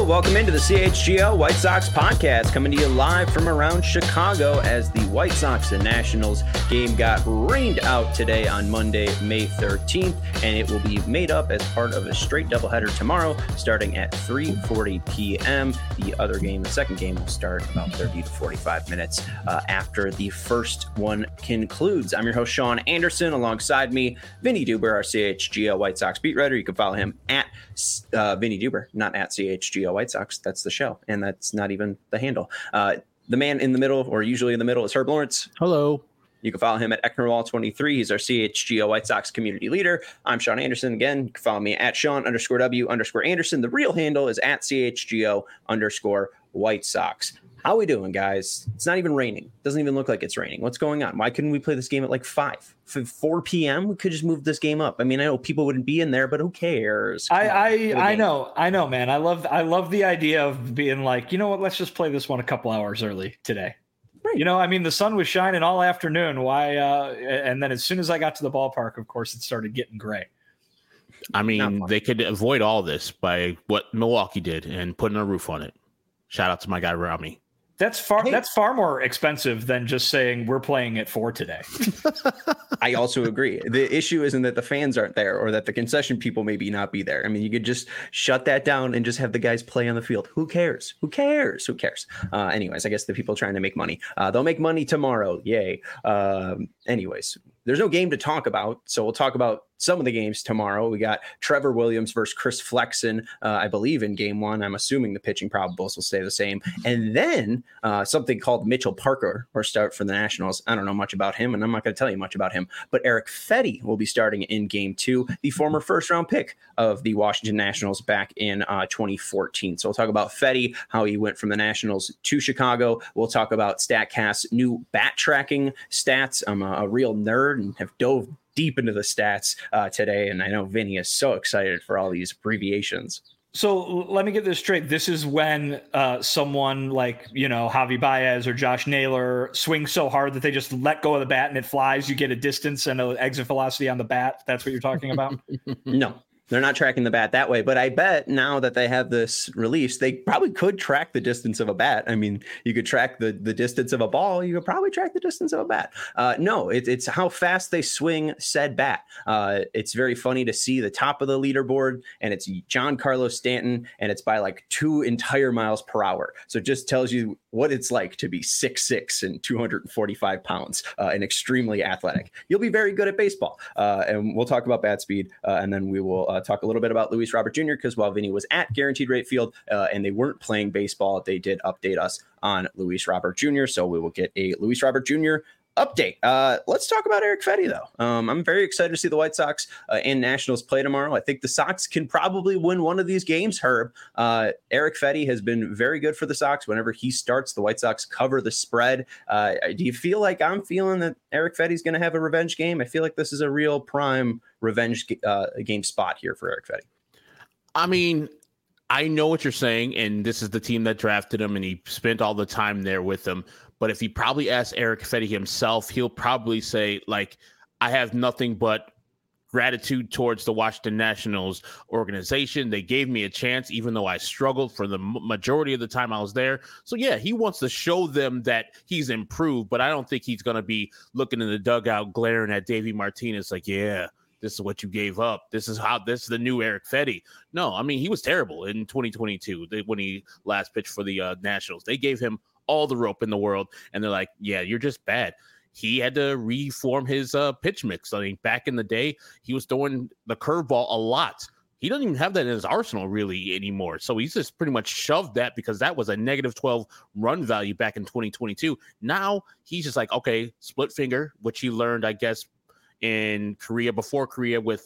Welcome into the CHGO White Sox podcast, coming to you live from around Chicago as the White Sox and Nationals game got rained out today on Monday, May 13th, and it will be made up as part of a straight doubleheader tomorrow, starting at 3:40 p.m. The other game, the second game, will start about 30 to 45 minutes after the first one concludes. I'm your host, Sean Anderson. Alongside me, Vinny Duber, our CHGO White Sox beat writer. You can follow him at Vinny Duber, not at CHGO White Sox. That's the show, and that's not even the handle. The man in the middle, or usually in the middle, is Herb Lawrence. Hello. You can follow him at Ecknerwall23. He's our CHGO White Sox community leader. I'm Sean Anderson. Again, you can follow me at Sean_W_Anderson. The real handle is at CHGO_White Sox. How we doing, guys? It's not even raining. Doesn't even look like it's raining. What's going on? Why couldn't we play this game at like 4 p.m.? We could just move this game up. I mean, I know people wouldn't be in there, but who cares? I know, man. I love the idea of being like, you know what? Let's just play this one a couple hours early today. Right. You know, I mean, the sun was shining all afternoon. Why? And then as soon as I got to the ballpark, of course, it started getting gray. I mean, they could avoid all this by what Milwaukee did and putting a roof on it. Shout out to my guy Rami. That's far more expensive than just saying we're playing at 4 today. I also agree. The issue isn't that the fans aren't there or that the concession people maybe not be there. I mean, you could just shut that down and just have the guys play on the field. Who cares? Anyways, I guess the people trying to make money. They'll make money tomorrow. Yay. Anyways, there's no game to talk about, so we'll talk about some of the games tomorrow. We got Trevor Williams versus Chris Flexen, I believe, in game one. I'm assuming the pitching probables will stay the same. And then something called Mitchell Parker will start for the Nationals. I don't know much about him, and I'm not going to tell you much about him. But Erick Fedde will be starting in game two, the former first-round pick of the Washington Nationals back in 2014. So we'll talk about Fedde, how he went from the Nationals to Chicago. We'll talk about StatCast's new bat tracking stats. I'm a real nerd and have dove deep into the stats today, and I know Vinny is so excited for all these abbreviations. So let me get this straight. This is when someone like, you know, Javi Baez or Josh Naylor swings so hard that they just let go of the bat and it flies. You get a distance and an exit velocity on the bat. That's what you're talking about? No. They're not tracking the bat that way, but I bet now that they have this release, they probably could track the distance of a bat. I mean, you could track the distance of a ball. You could probably track the distance of a bat. No, it's how fast they swing said bat. It's very funny to see the top of the leaderboard, and it's Giancarlo Stanton, and it's by like 2 entire miles per hour. So it just tells you what it's like to be 6'6" and 245 pounds and extremely athletic. You'll be very good at baseball. And we'll talk about bat speed, and then we will talk a little bit about Luis Robert Jr. because while Vinny was at Guaranteed Rate Field and they weren't playing baseball, they did update us on Luis Robert Jr. So we will get a Luis Robert Jr. update. Let's talk about Erick Fedde, though. I'm very excited to see the White Sox and Nationals play tomorrow. I think the Sox can probably win one of these games, Herb. Erick Fedde has been very good for the Sox. Whenever he starts, the White Sox cover the spread. Do you feel like I'm feeling that Erick Fedde is going to have a revenge game? I feel like this is a real prime revenge game spot here for Erick Fedde. I mean, I know what you're saying, and this is the team that drafted him, and he spent all the time there with them. But if he probably asked Erick Fedde himself, he'll probably say, like, I have nothing but gratitude towards the Washington Nationals organization. They gave me a chance, even though I struggled for the majority of the time I was there. So, yeah, he wants to show them that he's improved, but I don't think he's going to be looking in the dugout, glaring at Davey Martinez like, yeah, this is what you gave up. This is the new Erick Fedde. No, I mean, he was terrible in 2022 when he last pitched for the Nationals. They gave him all the rope in the world, and they're like, yeah, you're just bad. He had to reform his pitch mix. I mean, back in the day, he was throwing the curveball a lot. He doesn't even have that in his arsenal really anymore. So he's just pretty much shoved that because that was a -12 run value back in 2022. Now he's just like, okay, split finger, which he learned, I guess, in Korea, before Korea with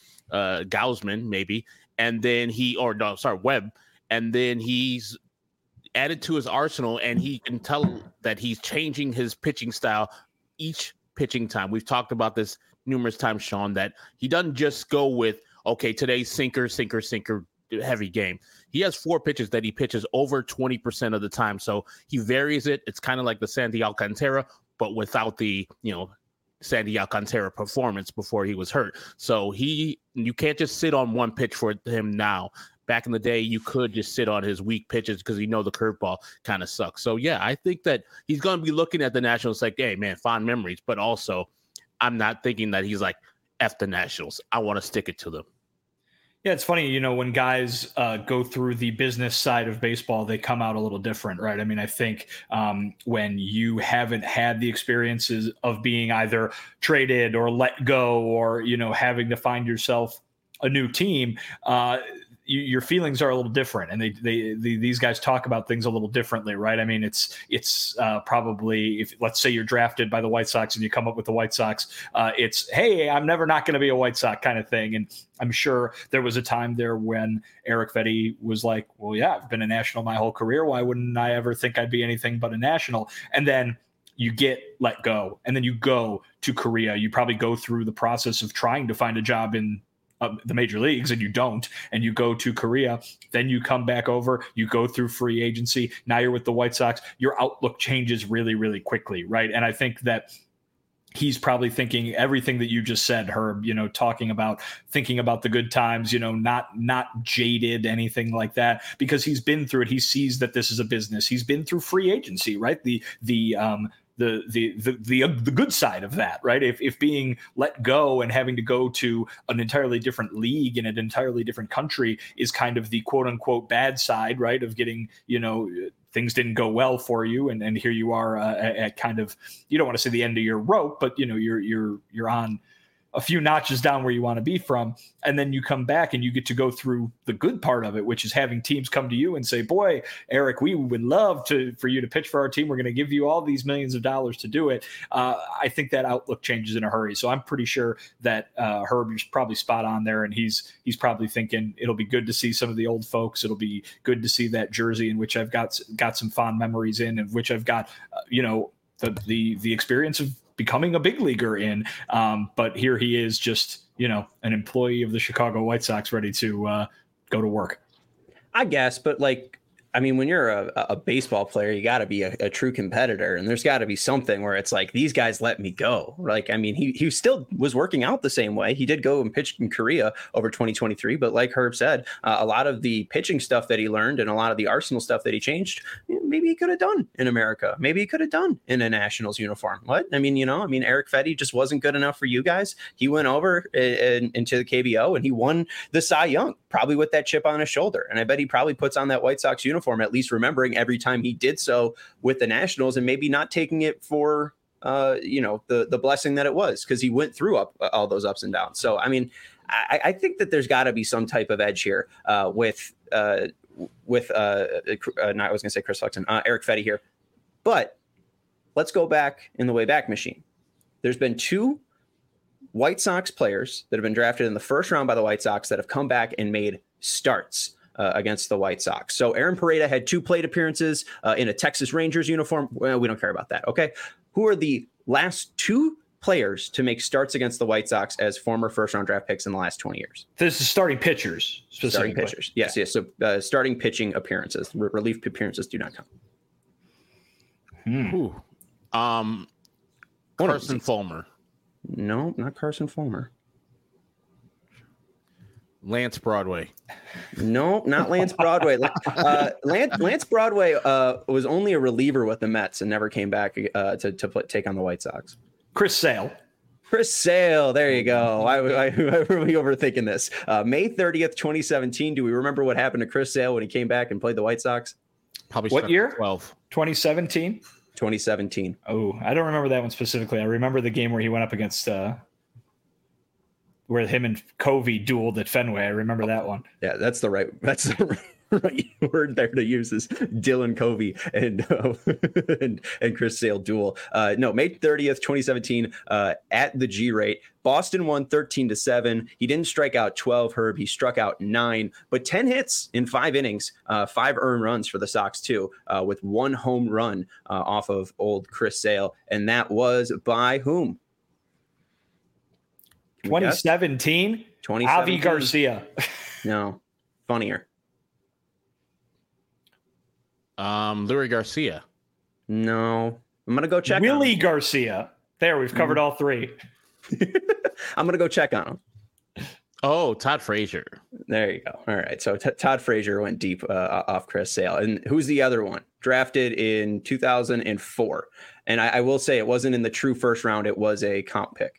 Gausman, maybe. And then Webb. And then he's added to his arsenal, and he can tell that he's changing his pitching style each pitching time. We've talked about this numerous times, Sean, that he doesn't just go with, okay, today's sinker, heavy game. He has 4 pitches that he pitches over 20% of the time. So he varies it. It's kind of like the Sandy Alcantara, but without the, Sandy Alcantara performance before he was hurt. So you can't just sit on one pitch for him now. back in the day, you could just sit on his weak pitches because the curveball kind of sucks. So, yeah, I think that he's going to be looking at the Nationals like, hey, man, fond memories. But also, I'm not thinking that he's like, F the Nationals. I want to stick it to them. Yeah, it's funny, when guys go through the business side of baseball, they come out a little different, right? I mean, I think when you haven't had the experiences of being either traded or let go or, having to find yourself a new team, your feelings are a little different, and these guys talk about things a little differently, right? I mean, it's probably, if let's say you're drafted by the White Sox and you come up with the White Sox, it's, hey, I'm never not going to be a White Sox kind of thing. And I'm sure there was a time there when Erick Fedde was like, well, yeah, I've been a National my whole career. Why wouldn't I ever think I'd be anything but a National? And then you get let go, and then you go to Korea. You probably go through the process of trying to find a job in the major leagues, and you don't, and you go to Korea, then you come back over, you go through free agency. Now you're with the White Sox. Your outlook changes really, really quickly, right? And I think that he's probably thinking everything that you just said, Herb, thinking about the good times, not jaded, anything like that, because he's been through it. He sees that this is a business. He's been through free agency, right? The good side of that, right? If being let go and having to go to an entirely different league in an entirely different country is kind of the quote unquote bad side, right? Of getting, things didn't go well for you. And here you are at kind of, you don't want to say the end of your rope, but you're on a few notches down where you want to be from. And then you come back and you get to go through the good part of it, which is having teams come to you and say, boy, Eric, we would love for you to pitch for our team. We're going to give you all these millions of dollars to do it. I think that outlook changes in a hurry. So I'm pretty sure that Herb is probably spot on there. And he's probably thinking it'll be good to see some of the old folks. It'll be good to see that jersey in which I've got some fond memories in, and which I've got, the experience of becoming a big leaguer in. But here he is, just, an employee of the Chicago White Sox, ready to go to work. I guess, but when you're a baseball player, you got to be a true competitor, and there's got to be something where it's like, these guys let me go. He still was working out the same way. He did go and pitch in Korea over 2023, but like Herb said, a lot of the pitching stuff that he learned and a lot of the arsenal stuff that he changed, maybe he could have done in America. Maybe he could have done in a Nationals uniform. Erick Fedde just wasn't good enough for you guys. He went over into the KBO and he won the Cy Young, probably with that chip on his shoulder. And I bet he probably puts on that White Sox uniform, at least remembering every time he did so with the Nationals, and maybe not taking it for the blessing that it was, because he went through all those ups and downs. So I think that there's got to be some type of edge here with I was going to say Chris Flexen, Erick Fedde here. But let's go back in the way back machine. There's been two White Sox players that have been drafted in the first round by the White Sox that have come back and made starts against the White Sox. So Aaron Pareda had 2 plate appearances in a Texas Rangers uniform. Well, we don't care about that. Okay. Who are the last 2 players to make starts against the White Sox as former first-round draft picks in the last 20 years? This is starting pitchers. Starting pitchers. Yes. So starting pitching appearances. Relief appearances do not count. Carson Fulmer. No, not Carson Fulmer. Lance Broadway. No, not Lance Broadway. Lance Broadway was only a reliever with the Mets and never came back to take on the White Sox. Chris Sale. There you go. I really overthinking this. May 30th, 2017. Do we remember what happened to Chris Sale when he came back and played the White Sox? Probably what year? 12. 2017. 2017. Oh, I don't remember that one specifically. I remember the game where he went up against where him and Covey dueled at Fenway. I remember that one. Yeah, that's the right word there to use is Dylan Covey and Chris Sale duel. No, May 30th, 2017, at the G-Rate. Boston won 13-7. He didn't strike out 12, Herb. He struck out 9, but 10 hits in 5 innings, 5 earned runs for the Sox too, with 1 home run off of old Chris Sale. And that was by whom? 2017? Avi Garcia. No, funnier. Luis Garcia. No, I'm gonna go check. Willie Garcia. There, we've covered all 3. I'm gonna go check on him. Oh, Todd Frazier. There you go. All right. So Todd Frazier went deep off Chris Sale. And who's the other one? Drafted in 2004. And I will say it wasn't in the true first round. It was a comp pick.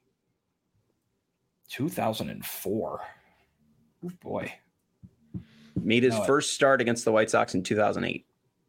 2004. Oh, boy. Made his first start against the White Sox in 2008.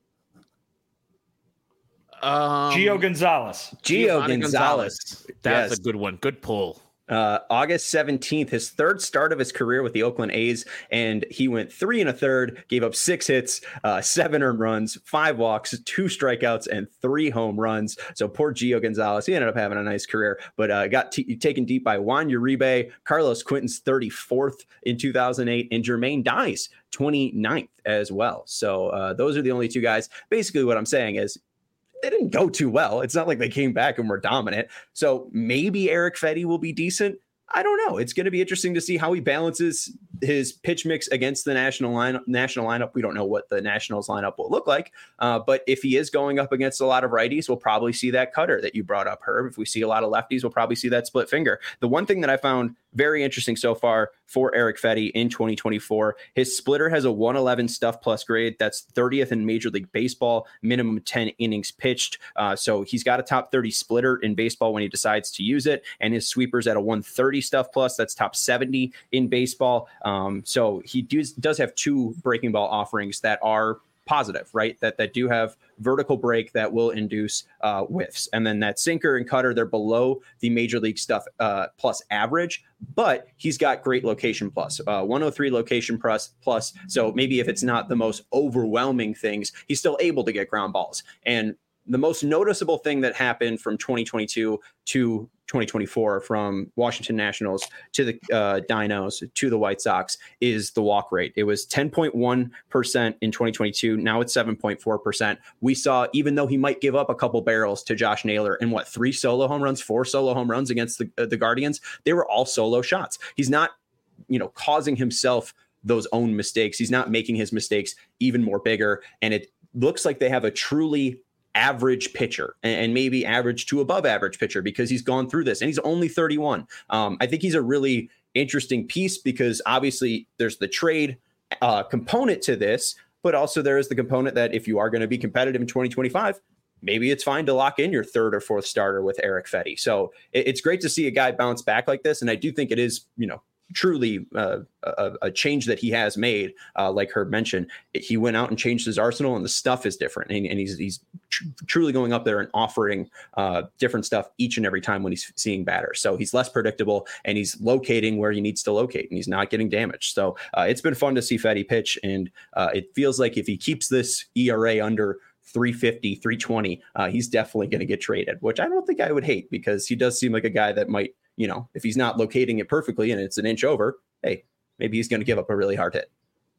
Gio Gonzalez. Gio Gonzalez. That's a good one. Good pull. August 17th, his third start of his career with the Oakland A's, and he went 3 1/3, gave up 6 hits, 7 earned runs, 5 walks, 2 strikeouts, and 3 home runs. So poor Gio Gonzalez, he ended up having a nice career, but got taken deep by Juan Uribe, Carlos Quinton's 34th in 2008, and Jermaine Dye's 29th as well. So those are the only 2 guys. Basically what I'm saying is, they didn't go too well. It's not like they came back and were dominant. So maybe Erick Fedde will be decent. I don't know. It's going to be interesting to see how he balances his pitch mix against the national lineup. We don't know what the Nationals lineup will look like. But if he is going up against a lot of righties, we'll probably see that cutter that you brought up, Herb. If we see a lot of lefties, we'll probably see that split finger. The one thing that I found very interesting so far for Erick Fedde in 2024, his splitter has a 111 stuff plus grade. That's 30th in Major League Baseball, minimum 10 innings pitched. So he's got a top 30 splitter in baseball when he decides to use it. And his sweeper's at a 130 stuff plus. That's top 70 in baseball. So he does have 2 breaking ball offerings that are positive, right? That do have vertical break that will induce whiffs. And then that sinker and cutter, they're below the Major League stuff plus average, but he's got great location plus, 103 location plus. So maybe if it's not the most overwhelming things, he's still able to get ground balls. And the most noticeable thing that happened from 2022 to 2024, from Washington Nationals to the Dinos to the White Sox, is the walk rate. It was 10.1% in 2022. Now it's 7.4%. We saw, even though he might give up a couple barrels to Josh Naylor and 4 solo home runs against the Guardians, they were all solo shots. He's not, causing himself those own mistakes. He's not making his mistakes even more bigger. And it looks like they have a truly average pitcher, and maybe average to above average pitcher, because he's gone through this and he's only 31. I think he's a really interesting piece, because obviously there's the trade component to this, but also there is the component that if you are going to be competitive in 2025, maybe it's fine to lock in your 3rd or 4th starter with Erick Fedde. So it's great to see a guy bounce back like this. And I do think it is, truly a change that he has made. Like Herb mentioned, he went out and changed his arsenal, and the stuff is different. And he's truly going up there and offering different stuff each and every time when he's seeing batters. So he's less predictable, and he's locating where he needs to locate, and he's not getting damaged. So it's been fun to see Fedde pitch. And it feels like if he keeps this ERA under 350, 320, he's definitely going to get traded, which I don't think I would hate, because he does seem like a guy that might, if he's not locating it perfectly and it's an inch over, hey, maybe he's going to give up a really hard hit.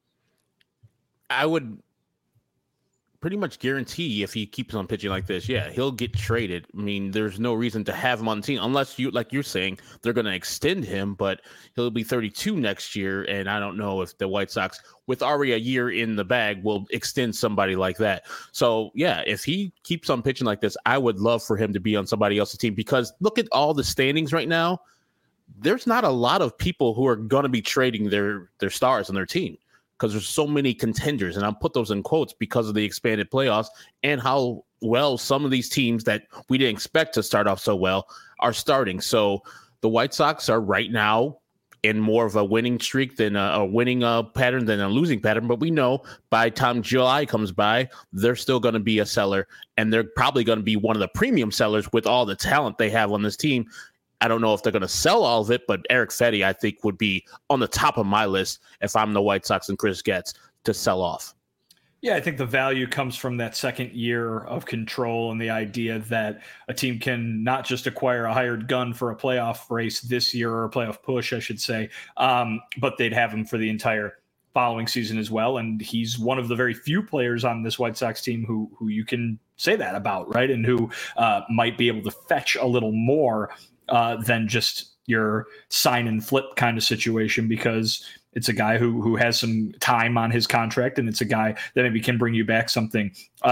I would pretty much guarantee if he keeps on pitching like this, he'll get traded. I mean, there's no reason to have him on the team unless like you're saying, they're going to extend him, but he'll be 32 next year. And I don't know if the White Sox, with already a year in the bag, will extend somebody like that. So if he keeps on pitching like this, I would love for him to be on somebody else's team, because look at all the standings right now. There's not a lot of people who are going to be trading their stars on their team, because there's so many contenders, and I'll put those in quotes because of the expanded playoffs and how well some of these teams that we didn't expect to start off so well are starting. So the White Sox are right now in more of a winning streak than a winning pattern than a losing pattern. But we know by the time July comes by, they're still going to be a seller, and they're probably going to be one of the premium sellers with all the talent they have on this team. I don't know if they're going to sell all of it, but Erick Fedde, I think, would be on the top of my list if I'm the White Sox and Chris Getz to sell off. Yeah, I think the value comes from that second year of control and the idea that a team can not just acquire a hired gun for a playoff race this year, or a playoff push, I should say, but they'd have him for the entire following season as well. And he's one of the very few players on this White Sox team who you can say that about, right? And who might be able to fetch a little more than just your sign and flip kind of situation, because it's a guy who has some time on his contract, and it's a guy that maybe can bring you back something.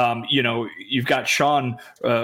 You've got Sean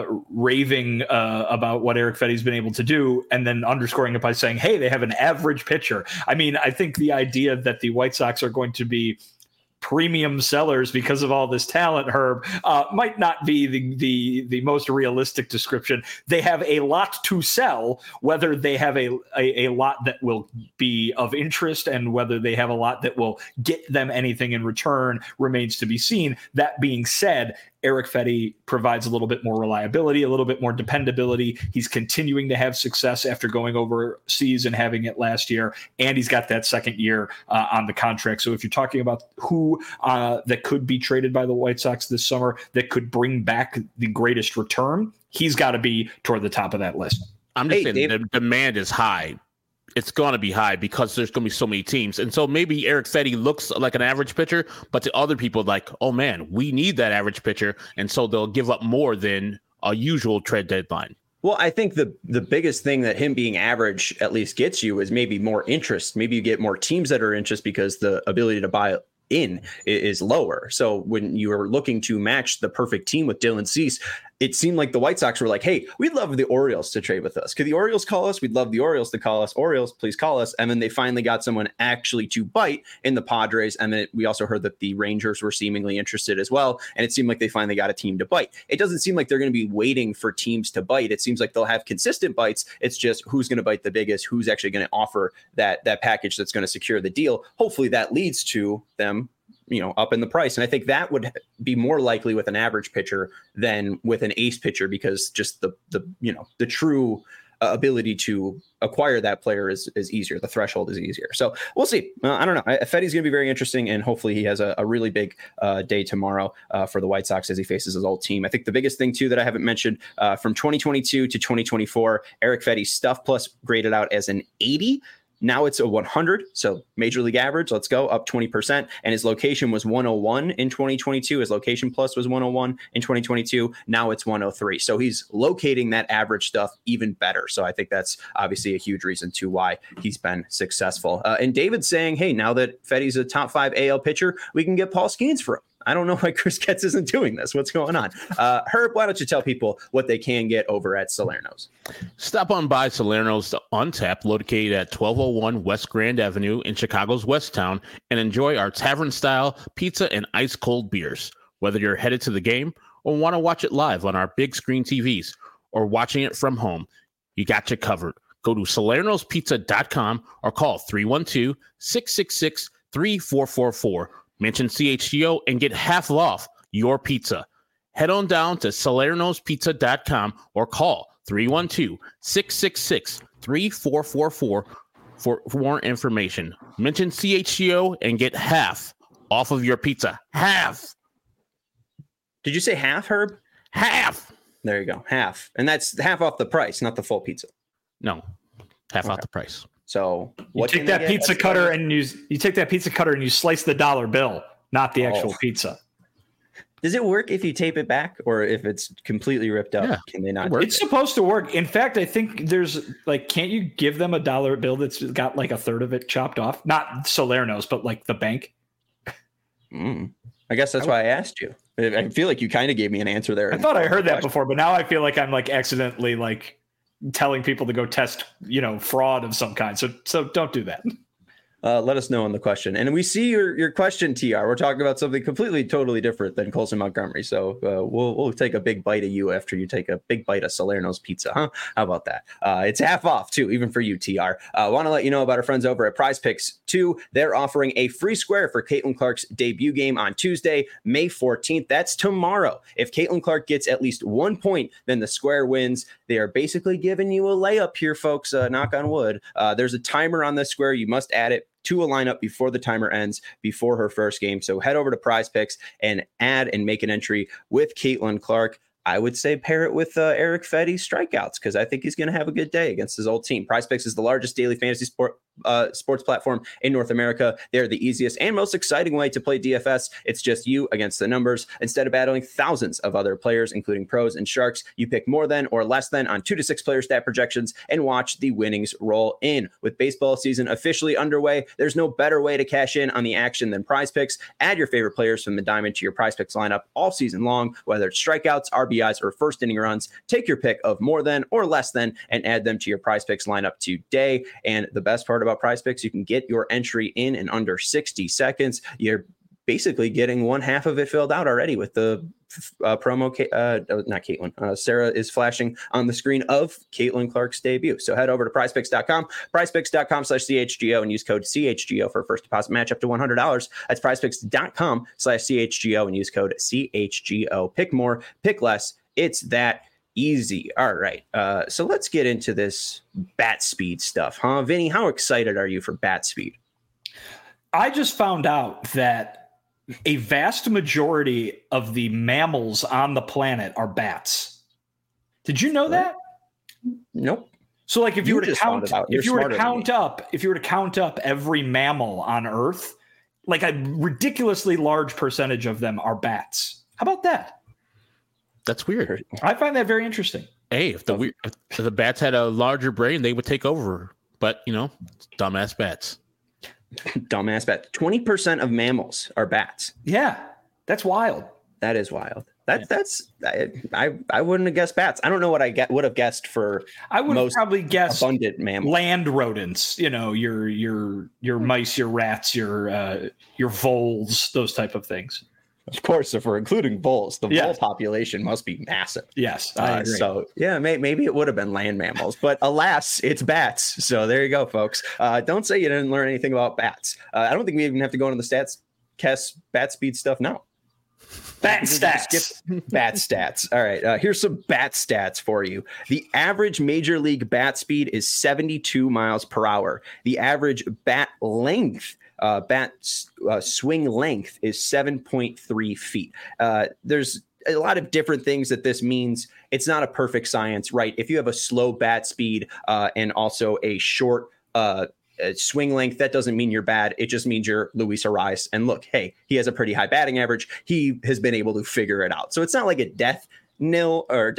raving about what Erick Fedde's been able to do, and then underscoring it by saying, hey, they have an average pitcher. I mean, I think the idea that the White Sox are going to be premium sellers because of all this talent, Herb, might not be the most realistic description. They have a lot to sell. Whether they have a lot that will be of interest and whether they have a lot that will get them anything in return remains to be seen. That being said, Erick Fedde provides a little bit more reliability, a little bit more dependability. He's continuing to have success after going overseas and having it last year, and he's got that second year on the contract. So if you're talking about who that could be traded by the White Sox this summer that could bring back the greatest return, he's got to be toward the top of that list. I'm just saying the demand is high. It's going to be high because there's going to be so many teams. And so maybe Erick Fedde looks like an average pitcher, but to other people, like, oh, man, we need that average pitcher. And so they'll give up more than a usual trade deadline. Well, I think the biggest thing that him being average at least gets you is maybe more interest. Maybe you get more teams that are interested because the ability to buy in is lower. So when you are looking to match the perfect team with Dylan Cease, it seemed like the White Sox were like, hey, we'd love the Orioles to trade with us. Could the Orioles call us? We'd love the Orioles to call us. Orioles, please call us. And then they finally got someone actually to bite in the Padres. And then we also heard that the Rangers were seemingly interested as well. And it seemed like they finally got a team to bite. It doesn't seem like they're going to be waiting for teams to bite. It seems like they'll have consistent bites. It's just who's going to bite the biggest, who's actually going to offer that package that's going to secure the deal. Hopefully that leads to them up in the price. And I think that would be more likely with an average pitcher than with an ace pitcher, because just the true ability to acquire that player is easier. The threshold is easier. So we'll see. I don't know. Fedde's going to be very interesting, and hopefully he has a really big day tomorrow for the White Sox as he faces his old team. I think the biggest thing too that I haven't mentioned from 2022 to 2024, Erick Fedde's Stuff Plus graded out as an 80. Now it's a 100, so major league average. Let's go up 20%. And his location was 101 in 2022. His location plus was 101 in 2022. Now it's 103. So he's locating that average stuff even better. So I think that's obviously a huge reason to why he's been successful. And David's saying, hey, now that Fedde's a top 5 AL pitcher, we can get Paul Skeens for him. I don't know why Chris Getz isn't doing this. What's going on? Herb, why don't you tell people what they can get over at Salerno's? Stop on by Salerno's Untapped, located at 1201 West Grand Avenue in Chicago's West Town, and enjoy our tavern-style pizza and ice-cold beers. Whether you're headed to the game or want to watch it live on our big screen TVs or watching it from home, you got you covered. Go to salernospizza.com or call 312-666-3444. Mention CHGO and get half off your pizza. Head on down to salernospizza.com or call 312-666-3444 for more information. Mention CHGO and get half off of your pizza. Half. Did you say half, Herb? Half. There you go. Half. And that's half off the price, not the full pizza. No. Half off the price. So you take that pizza cutter and you take that pizza cutter and you slice the dollar bill, not the actual pizza. Does it work if you tape it back, or if it's completely ripped up? Yeah, can they not? It's supposed to work. In fact, I think there's can't you give them a dollar bill that's got like a third of it chopped off? Not Salerno's, but like the bank. I guess that's why I asked you. I feel like you kind of gave me an answer there. I thought I heard that before, but now I feel like I'm accidentally telling people to go test, fraud of some kind. So don't do that. Let us know on the question. And we see your question, TR. We're talking about something completely, totally different than Colson Montgomery. So we'll take a big bite of you after you take a big bite of Salerno's pizza, huh? How about that? It's half off, too, even for you, TR. Want to let you know about our friends over at Prize Picks 2. They're offering a free square for Caitlin Clark's debut game on Tuesday, May 14th. That's tomorrow. If Caitlin Clark gets at least 1 point, then the square wins. They are basically giving you a layup here, folks. Knock on wood. There's a timer on this square. You must add it to a lineup before the timer ends, before her first game. So head over to Prize Picks and add and make an entry with Caitlin Clark. I would say pair it with Eric Fetty's strikeouts because I think he's going to have a good day against his old team. PrizePicks is the largest daily fantasy sports platform in North America. They're the easiest and most exciting way to play DFS. It's just you against the numbers. Instead of battling thousands of other players, including pros and sharks, you pick more than or less than on 2 to 6 player stat projections and watch the winnings roll in. With baseball season officially underway, there's no better way to cash in on the action than PrizePicks. Add your favorite players from the diamond to your PrizePicks lineup all season long, whether it's strikeouts, RBIs, or first inning runs. Take your pick of more than or less than and add them to your PrizePicks lineup today. And the best part about PrizePicks, you can get your entry in under 60 seconds. You're basically getting one half of it filled out already with the promo. Not Caitlin. Sarah is flashing on the screen of Caitlin Clark's debut. So head over to prizepicks.com, prizepicks.com/CHGO, and use code CHGO for a first deposit match up to $100. That's prizepicks.com/CHGO and use code CHGO. Pick more, pick less. It's that easy. All right. So let's get into this bat speed stuff, huh? Vinny, how excited are you for bat speed? I just found out that a vast majority of the mammals on the planet are bats. Did you know that? Nope. So like if you were to count up every mammal on Earth, like a ridiculously large percentage of them are bats. How about that? That's weird. I find that very interesting. Hey, if the bats had a larger brain, they would take over. But, dumbass bats. Dumbass bat. 20% of mammals are bats. Yeah, that's wild. That is wild. That's I wouldn't have guessed bats. I don't know what I would have guessed for. I would have probably guessed abundant mammals, land rodents. Your mice, your rats, your voles, those type of things. Of course, if we're including voles, the vole population must be massive. Yes, I agree. So, yeah, maybe it would have been land mammals, but alas, it's bats. So there you go, folks. Don't say you didn't learn anything about bats. I don't think we even have to go into the stats, bat speed stuff now. Bat stats. Bat stats. All right. Here's some bat stats for you. The average major league bat speed is 72 miles per hour. The average bat length, swing length is 7.3 feet. There's a lot of different things that this means. It's not a perfect science, right? If you have a slow bat speed and also a short swing length, that doesn't mean you're bad. It just means you're Luis Arraez. And look, hey, he has a pretty high batting average. He has been able to figure it out. So it's not like a death nil or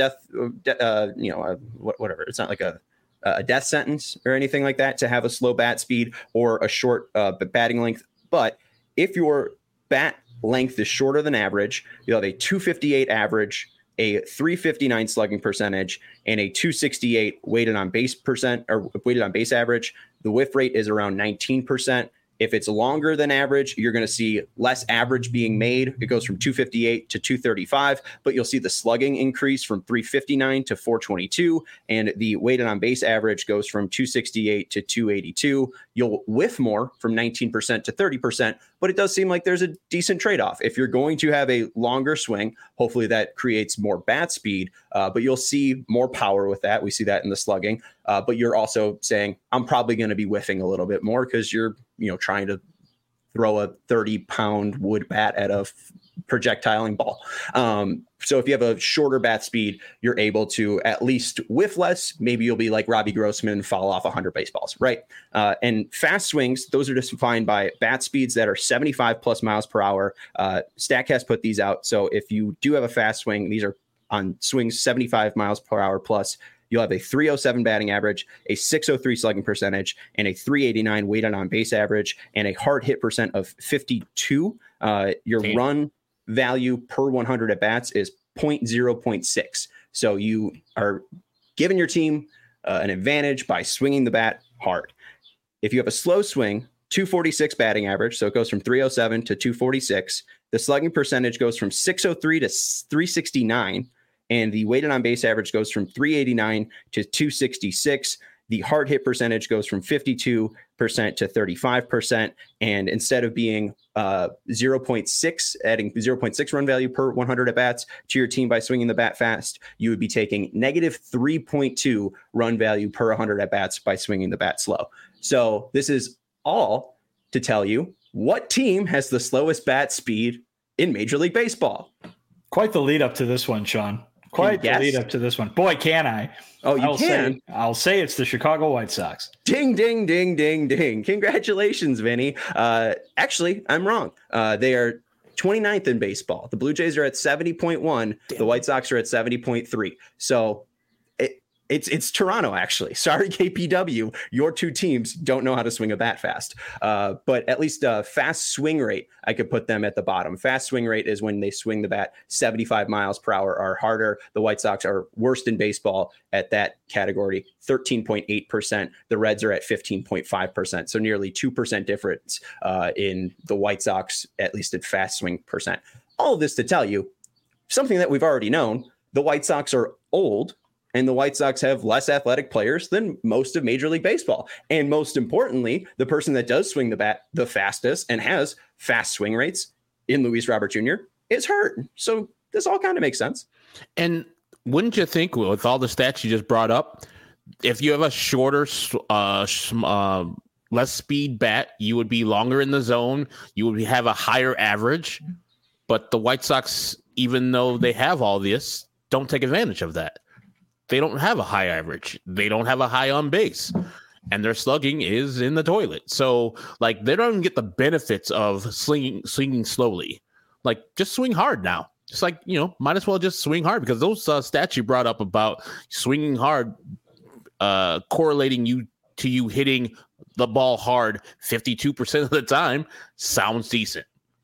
whatever. It's not like a death sentence or anything like that to have a slow bat speed or a short batting length. But if your bat length is shorter than average, you'll have a 258 average, a 359 slugging percentage, and a 268 weighted on base average. The whiff rate is around 19%. If it's longer than average, you're going to see less average being made. It goes from 258 to 235, but you'll see the slugging increase from 359 to 422, and the weighted on base average goes from 268 to 282. You'll whiff more from 19% to 30%, but it does seem like there's a decent trade-off. If you're going to have a longer swing, hopefully that creates more bat speed, but you'll see more power with that. We see that in the slugging, but you're also saying, I'm probably going to be whiffing a little bit more because you're trying to throw a 30-pound wood bat at a projectiling ball. So if you have a shorter bat speed, you're able to at least whiff less. Maybe you'll be like Robbie Grossman and foul off 100 baseballs, right? And fast swings, those are defined by bat speeds that are 75 plus miles per hour. StatCast put these out. So if you do have a fast swing, these are on swings 75 miles per hour plus. You'll have a 307 batting average, a 603 slugging percentage, and a 389 weighted on base average, and a hard hit percent of 52. Your run value per 100 at bats is 0.6. So you are giving your team an advantage by swinging the bat hard. If you have a slow swing, 246 batting average, so it goes from 307 to 246. The slugging percentage goes from 603 to 369. And the weighted on base average goes from 389 to 266. The hard hit percentage goes from 52% to 35%. And instead of being 0.6, adding 0.6 run value per 100 at bats to your team by swinging the bat fast, you would be taking negative 3.2 run value per 100 at bats by swinging the bat slow. So this is all to tell you what team has the slowest bat speed in Major League Baseball. Quite the lead up to this one, Sean. Quite the lead up to this one. Boy, can I. Oh, you can? I'll say it's the Chicago White Sox. Ding, ding, ding, ding, ding. Congratulations, Vinny. Actually, I'm wrong. They are 29th in baseball. The Blue Jays are at 70.1. The White Sox are at 70.3. So it's Toronto, actually. Sorry, KPW. Your two teams don't know how to swing a bat fast. But at least fast swing rate, I could put them at the bottom. Fast swing rate is when they swing the bat 75 miles per hour or harder. The White Sox are worst in baseball at that category, 13.8%. The Reds are at 15.5%. So nearly 2% difference in the White Sox, at least at fast swing percent. All of this to tell you something that we've already known. The White Sox are old. And the White Sox have less athletic players than most of Major League Baseball. And most importantly, the person that does swing the bat the fastest and has fast swing rates in Luis Robert Jr. is hurt. So this all kind of makes sense. And wouldn't you think, with all the stats you just brought up, if you have a shorter, less speed bat, you would be longer in the zone. You would have a higher average. But the White Sox, even though they have all this, don't take advantage of that. They don't have a high average. They don't have a high on base, and their slugging is in the toilet. So, like, they don't even get the benefits of swinging slowly. Like, just swing hard now. Just like, might as well just swing hard, because those stats you brought up about swinging hard, correlating to you hitting the ball hard 52% of the time sounds decent.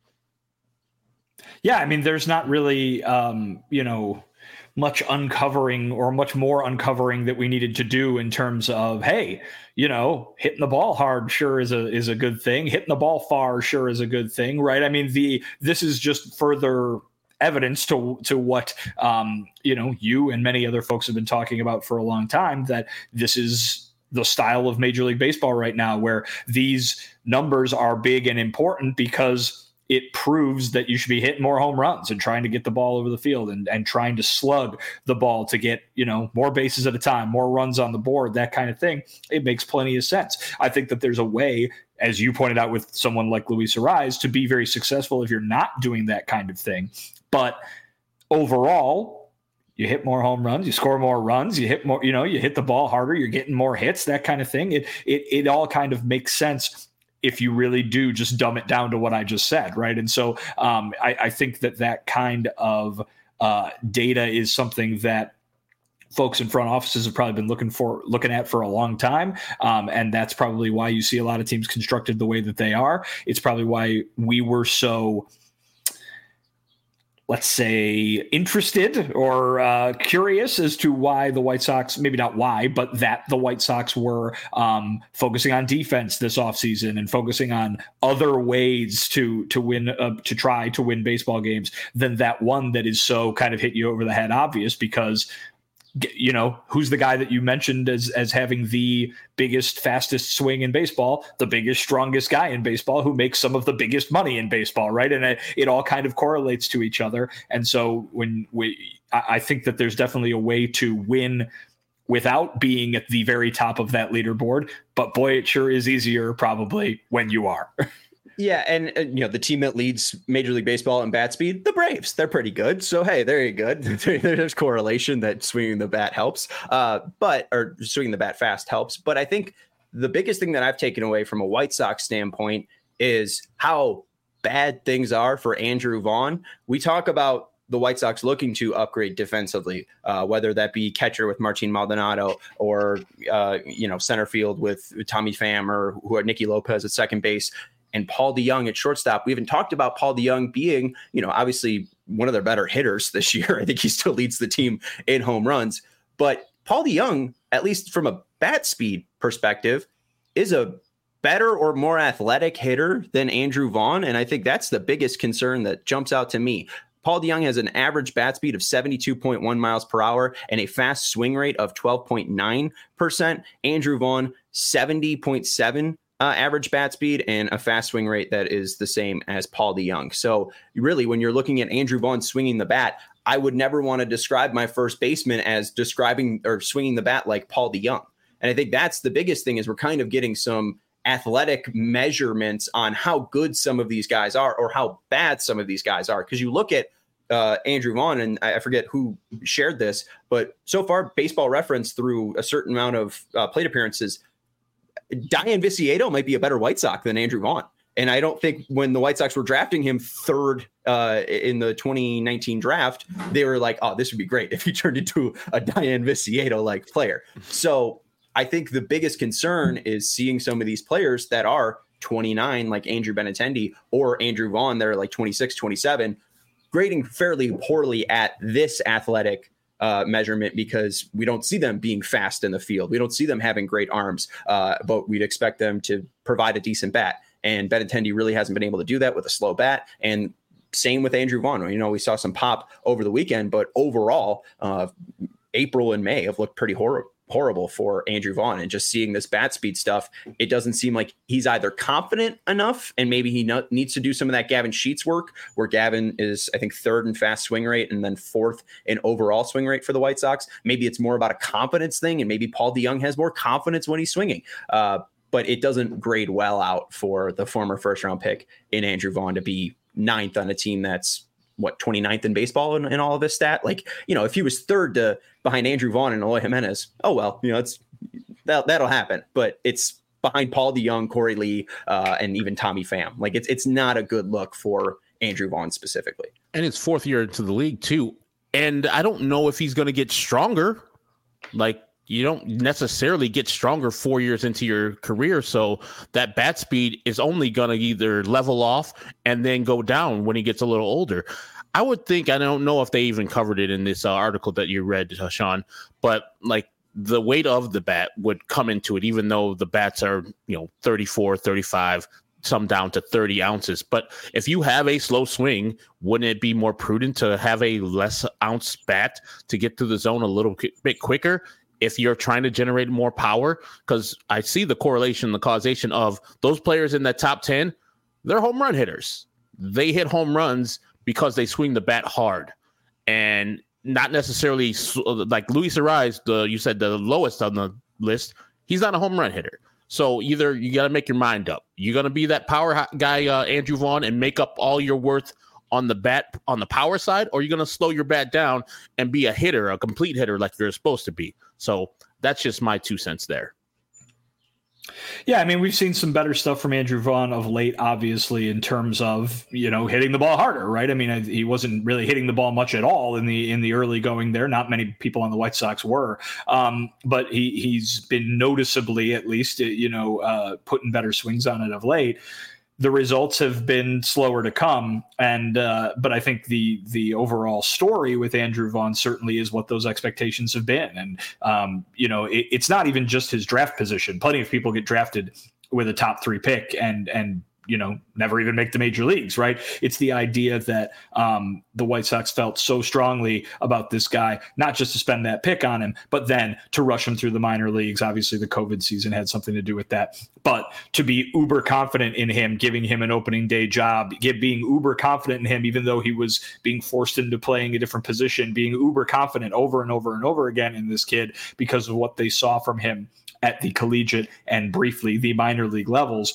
Yeah, I mean, there's not really, much uncovering or much more uncovering that we needed to do in terms of, hey, hitting the ball hard sure is a good thing. Hitting the ball far sure is a good thing, right? I mean, this is just further evidence to what you and many other folks have been talking about for a long time, that this is the style of Major League Baseball right now, where these numbers are big and important because it proves that you should be hitting more home runs and trying to get the ball over the field and trying to slug the ball to get, more bases at a time, more runs on the board, that kind of thing. It makes plenty of sense. I think that there's a way, as you pointed out with someone like Luis Arraez, to be very successful if you're not doing that kind of thing. But overall, you hit more home runs, you score more runs, you hit more, you hit the ball harder, you're getting more hits, that kind of thing. It all kind of makes sense if you really do just dumb it down to what I just said, right? And so I think that kind of data is something that folks in front offices have probably been looking at for a long time. And that's probably why you see a lot of teams constructed the way that they are. It's probably why we were so, let's say, interested or curious as to why the White Sox, maybe not why, but that the White Sox were focusing on defense this offseason and focusing on other ways to win, to try to win baseball games than that one that is so kind of hit you over the head obvious, because who's the guy that you mentioned as having the biggest, fastest swing in baseball, the biggest, strongest guy in baseball, who makes some of the biggest money in baseball, right? And it all kind of correlates to each other. And so I think that there's definitely a way to win without being at the very top of that leaderboard, but boy, it sure is easier probably when you are. Yeah, and the team that leads Major League Baseball in bat speed, the Braves, they're pretty good. So hey, there you go. There's correlation that swinging the bat helps, or swinging the bat fast helps. But I think the biggest thing that I've taken away from a White Sox standpoint is how bad things are for Andrew Vaughn. We talk about the White Sox looking to upgrade defensively, whether that be catcher with Martin Maldonado or center field with Tommy Pham or Nicky Lopez at second base, and Paul DeJong at shortstop. We haven't talked about Paul DeJong being, obviously one of their better hitters this year. I think he still leads the team in home runs. But Paul DeJong, at least from a bat speed perspective, is a better or more athletic hitter than Andrew Vaughn. And I think that's the biggest concern that jumps out to me. Paul DeJong has an average bat speed of 72.1 miles per hour and a fast swing rate of 12.9%. Andrew Vaughn, 70.7 average bat speed and a fast swing rate that is the same as Paul DeJong. So really, when you're looking at Andrew Vaughn swinging the bat, I would never want to describe my first baseman as describing or swinging the bat like Paul DeJong. And I think that's the biggest thing, is we're kind of getting some athletic measurements on how good some of these guys are or how bad some of these guys are. Because you look at Andrew Vaughn, and I forget who shared this, but so far Baseball Reference, through a certain amount of plate appearances, Diane Viciedo might be a better White Sox than Andrew Vaughn. And I don't think when the White Sox were drafting him third in the 2019 draft, they were like, oh, this would be great if he turned into a Diane Viciedo-like player. So I think the biggest concern is seeing some of these players that are 29, like Andrew Benintendi, or Andrew Vaughn, that are like 26, 27, grading fairly poorly at this athletic measurement, because we don't see them being fast in the field. We don't see them having great arms, but we'd expect them to provide a decent bat. And Benintendi really hasn't been able to do that with a slow bat. And same with Andrew Vaughn. You know, we saw some pop over the weekend, but overall, April and May have looked pretty horrible for Andrew Vaughn. And just seeing this bat speed stuff, it doesn't seem like he's either confident enough, and maybe he needs to do some of that Gavin Sheets work, where Gavin is, I think, third in fast swing rate and then fourth in overall swing rate for the White Sox. Maybe it's more about a confidence thing, and maybe Paul DeJong has more confidence when he's swinging. But it doesn't grade well out for the former first-round pick in Andrew Vaughn to be ninth on a team that's, 29th in baseball in all of this stat. Like, you know, if he was third behind Andrew Vaughn and Eloy Jimenez, oh, well, you know, that'll happen. But it's behind Paul DeJong, Corey Lee, and even Tommy Pham. Like, it's not a good look for Andrew Vaughn specifically. And it's fourth year into the league, too. And I don't know if he's going to get stronger. Like, you don't necessarily get stronger 4 years into your career. So that bat speed is only going to either level off and then go down when he gets a little older. I would think, I don't know if they even covered it in this article that you read, Sean, but like the weight of the bat would come into it, even though the bats are, 34, 35, some down to 30 ounces. But if you have a slow swing, wouldn't it be more prudent to have a less ounce bat to get to the zone a little bit quicker if you're trying to generate more power? Because I see the correlation, the causation of those players in that top 10, they're home run hitters. They hit home runs because they swing the bat hard, and not necessarily like Luis Arraez, you said the lowest on the list. He's not a home run hitter. So either you got to make your mind up. You're going to be that power guy, Andrew Vaughn, and make up all your worth on the bat, on the power side, or you're going to slow your bat down and be a hitter, a complete hitter like you're supposed to be. So that's just my 2 cents there. Yeah, I mean, we've seen some better stuff from Andrew Vaughn of late, obviously, in terms of, hitting the ball harder, right? I mean, he wasn't really hitting the ball much at all in the early going there. Not many people on the White Sox were, but he's been noticeably, at least, putting better swings on it of late. The results have been slower to come, but I think the overall story with Andrew Vaughn certainly is what those expectations have been. And it's not even just his draft position. Plenty of people get drafted with a top 3 pick and never even make the major leagues, right? It's the idea that the White Sox felt so strongly about this guy, not just to spend that pick on him, but then to rush him through the minor leagues. Obviously, the COVID season had something to do with that. But to be uber confident in him, giving him an opening day job, being uber confident in him, even though he was being forced into playing a different position, being uber confident over and over and over again in this kid because of what they saw from him at the collegiate and briefly the minor league levels.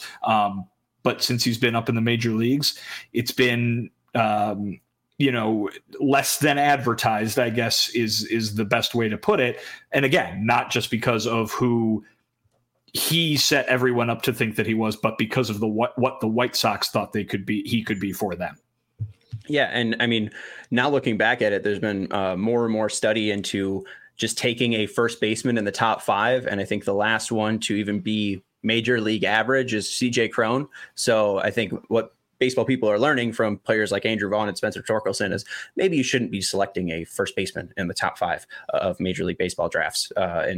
But since he's been up in the major leagues, it's been, less than advertised, I guess, is the best way to put it. And again, not just because of who he set everyone up to think that he was, but because of what the White Sox thought he could be for them. Yeah, and I mean, now looking back at it, there's been more and more study into just taking a first baseman in the top 5, and I think the last one to even be major league average is CJ Cron. So I think what baseball people are learning from players like Andrew Vaughn and Spencer Torkelson is maybe you shouldn't be selecting a first baseman in the top 5 of Major League Baseball drafts.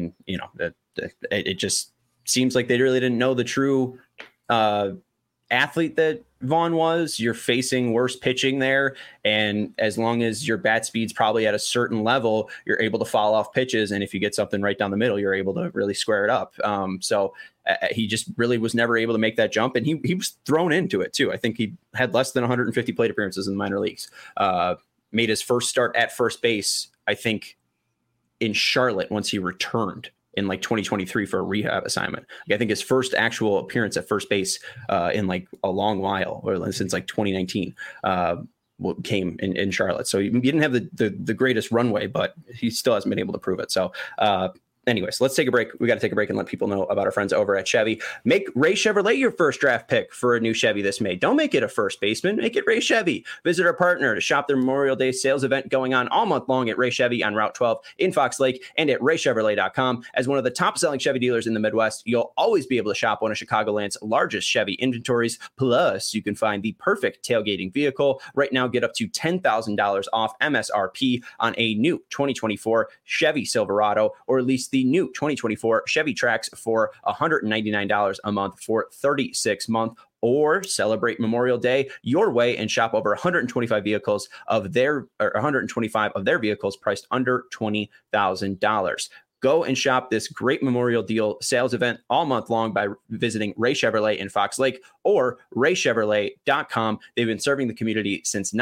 It just seems like they really didn't know the true athlete that Vaughn was. You're facing worse pitching there, and as long as your bat speed's probably at a certain level, you're able to foul off pitches, and if you get something right down the middle, you're able to really square it up. So he just really was never able to make that jump, and he was thrown into it too. I think he had less than 150 plate appearances in the minor leagues. Made his first start at first base, I think, in Charlotte once he returned in like 2023 for a rehab assignment. I think his first actual appearance at first base in like a long while, or since like 2019. came in Charlotte. So he didn't have the greatest runway, but he still hasn't been able to prove it. So anyways, let's take a break. We got to take a break and let people know about our friends over at Chevy. Make Ray Chevrolet your first draft pick for a new Chevy this May. Don't make it a first baseman. Make it Ray Chevy. Visit our partner to shop their Memorial Day sales event going on all month long at Ray Chevy on Route 12 in Fox Lake and at raychevrolet.com. As one of the top-selling Chevy dealers in the Midwest, you'll always be able to shop one of Chicagoland's largest Chevy inventories. Plus, you can find the perfect tailgating vehicle. Right now, get up to $10,000 off MSRP on a new 2024 Chevy Silverado, or at least the new 2024 Chevy Trax for $199 a month for 36 months, or celebrate Memorial Day your way and shop over 125 vehicles of their 125 of their vehicles priced under $20,000. Go and shop this great Memorial Deal sales event all month long by visiting Ray Chevrolet in Fox Lake or raychevrolet.com. They've been serving the community since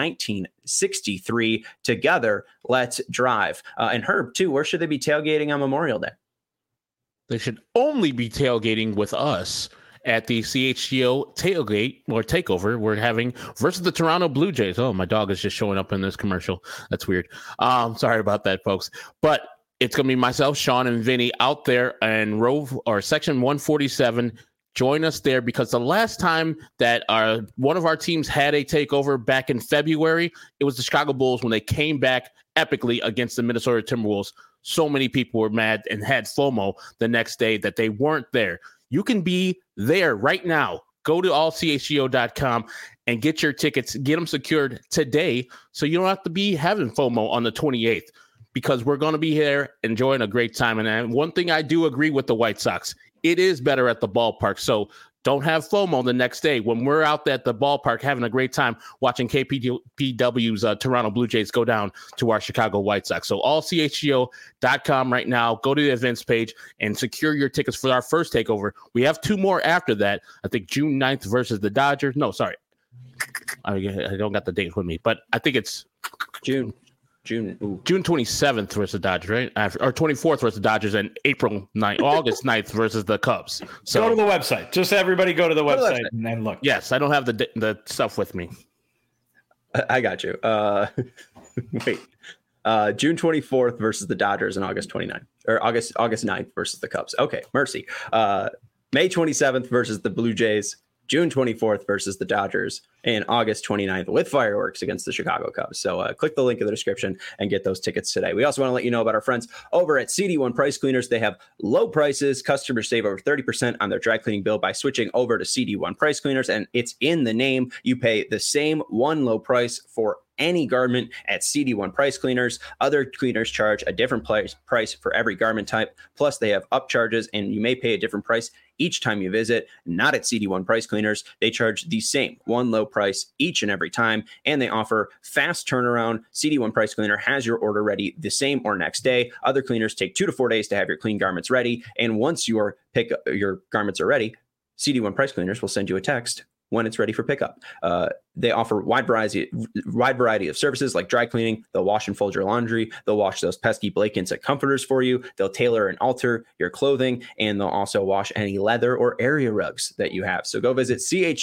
1963. Together, let's drive. And Herb, too, where should they be tailgating on Memorial Day? They should only be tailgating with us at the CHGO tailgate or takeover we're having versus the Toronto Blue Jays. Oh, my dog is just showing up in this commercial. That's weird. Sorry about that, folks. But it's going to be myself, Sean, and Vinny out there in section 147. Join us there, because the last time that one of our teams had a takeover back in February, it was the Chicago Bulls when they came back epically against the Minnesota Timberwolves. So many people were mad and had FOMO the next day that they weren't there. You can be there right now. Go to allchgo.com and get your tickets. Get them secured today so you don't have to be having FOMO on the 28th. Because we're going to be here enjoying a great time. And one thing I do agree with the White Sox, it is better at the ballpark. So don't have FOMO the next day when we're out at the ballpark having a great time watching KPW's Toronto Blue Jays go down to our Chicago White Sox. So allchgo.com right now. Go to the events page and secure your tickets for our first takeover. We have two more after that. I think June 9th versus the Dodgers. No, sorry. I don't got the date with me, but I think it's June 27th versus the Dodgers, right? Or 24th versus the Dodgers, and August 9th versus the Cubs. So go to the website. Just everybody go to the website and then look. Yes, I don't have the stuff with me. I got you. Wait. June 24th versus the Dodgers and August 29th, or August 9th versus the Cubs. Okay, mercy. May 27th versus the Blue Jays. June 24th versus the Dodgers, and August 29th with fireworks against the Chicago Cubs. So click the link in the description and get those tickets today. We also want to let you know about our friends over at CD1 Price Cleaners. They have low prices. Customers save over 30% on their dry cleaning bill by switching over to CD1 Price Cleaners, and it's in the name. You pay the same one low price for any garment at CD1 Price Cleaners. Other cleaners charge a different price for every garment type. Plus, they have upcharges, and you may pay a different price each time you visit. Not at CD1 Price Cleaners. They charge the same one low price each and every time, and they offer fast turnaround. CD1 Price Cleaner has your order ready the same or next day. Other cleaners take 2 to 4 days to have your clean garments ready, and once your garments are ready, CD1 Price Cleaners will send you a text when it's ready for pickup. They offer wide variety of services like dry cleaning. They'll wash and fold your laundry. They'll wash those pesky blankets and comforters for you. They'll tailor and alter your clothing, and they'll also wash any leather or area rugs that you have. So go visit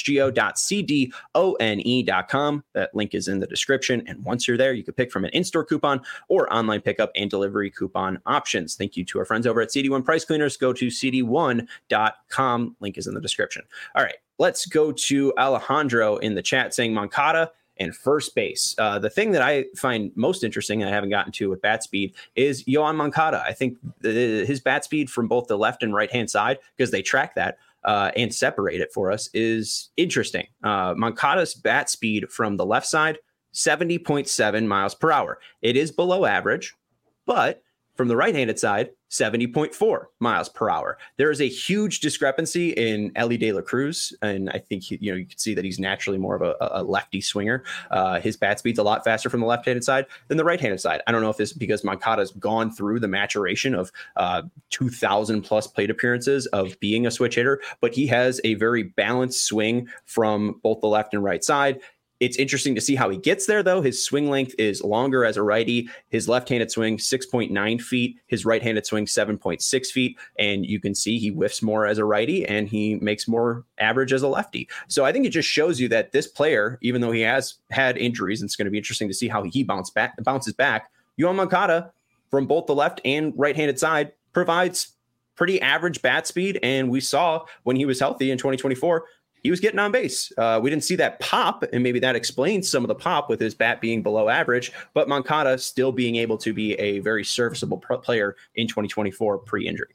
chgo.cdone.com. That link is in the description. And once you're there, you can pick from an in-store coupon or online pickup and delivery coupon options. Thank you to our friends over at CD1 Price Cleaners. Go to cd1.com. Link is in the description. All right. Let's go to Alejandro in the chat saying Moncada and first base. The thing that I find most interesting, and I haven't gotten to with bat speed, is Yoan Moncada. I think his bat speed from both the left and right hand side, because they track that and separate it for us, is interesting. Moncada's bat speed from the left side, 70.7 miles per hour. It is below average, but from the right-handed side, 70.4 miles per hour. There is a huge discrepancy in Elly De La Cruz, and I think you can see that he's naturally more of a lefty swinger. His bat speed's a lot faster from the left-handed side than the right-handed side. I don't know if this is because Moncada's gone through the maturation of 2,000 plus plate appearances of being a switch hitter, but he has a very balanced swing from both the left and right side. It's interesting to see how he gets there, though. His swing length is longer as a righty. His left-handed swing, 6.9 feet. His right-handed swing, 7.6 feet. And you can see he whiffs more as a righty and he makes more average as a lefty. So I think it just shows you that this player, even though he has had injuries, and it's going to be interesting to see how he bounces back, Yoan Moncada, from both the left and right-handed side, provides pretty average bat speed. And we saw when he was healthy in 2024, he was getting on base. We didn't see that pop, and maybe that explains some of the pop with his bat being below average, but Moncada still being able to be a very serviceable player in 2024 pre-injury.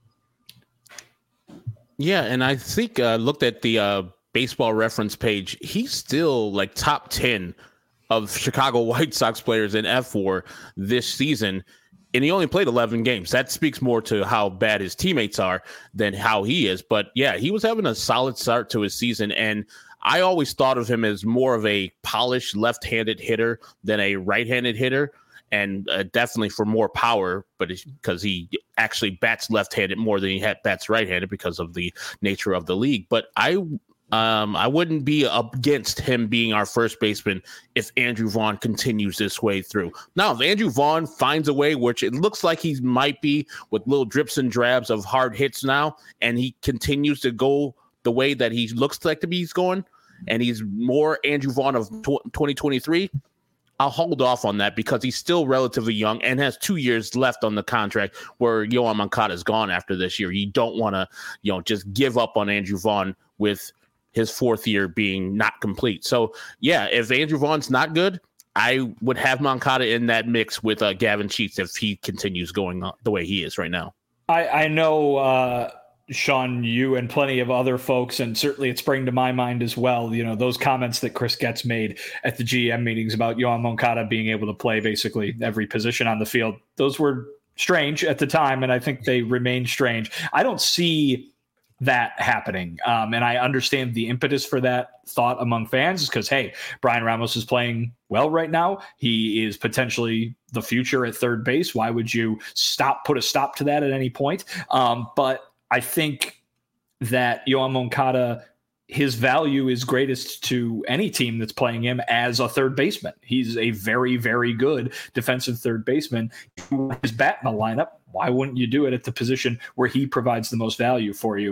Yeah, and I think looked at the Baseball Reference page. He's still like top 10 of Chicago White Sox players in F4 this season. And he only played 11 games. That speaks more to how bad his teammates are than how he is. But yeah, he was having a solid start to his season. And I always thought of him as more of a polished left-handed hitter than a right-handed hitter. And definitely for more power, but because he actually bats left-handed more than he bats right-handed because of the nature of the league. But I wouldn't be against him being our first baseman if Andrew Vaughn continues this way through. Now, if Andrew Vaughn finds a way, which it looks like he might be with little drips and drabs of hard hits now, and he continues to go the way that he looks like to be going, and he's more Andrew Vaughn of 2023, I'll hold off on that because he's still relatively young and has 2 years left on the contract where Yoan Moncada is gone after this year. You don't want to, just give up on Andrew Vaughn with his fourth year being not complete. So, yeah, if Andrew Vaughn's not good, I would have Moncada in that mix with Gavin Sheets if he continues going on the way he is right now. I know, Sean, you and plenty of other folks, and certainly it's bringing to my mind as well, those comments that Chris Getz made at the GM meetings about Yoan Moncada being able to play basically every position on the field. Those were strange at the time, and I think they remain strange. I don't see that happening. And I understand the impetus for that thought among fans because, hey, Brian Ramos is playing well right now. He is potentially the future at third base. Why would you put a stop to that at any point? But I think that Yoan Moncada, his value is greatest to any team that's playing him as a third baseman. He's a very, very good defensive third baseman. His bat in the lineup, why wouldn't you do it at the position where he provides the most value for you?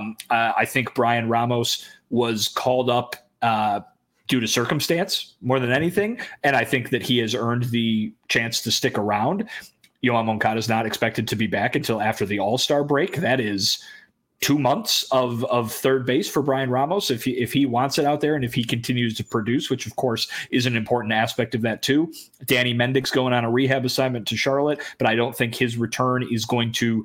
I think Brian Ramos was called up due to circumstance more than anything, and I think that he has earned the chance to stick around. Yoan Moncada is not expected to be back until after the All-Star break. That is 2 months of third base for Brian Ramos if he wants it out there and if he continues to produce, which of course is an important aspect of that too. Danny Mendick's going on a rehab assignment to Charlotte, but I don't think his return is going to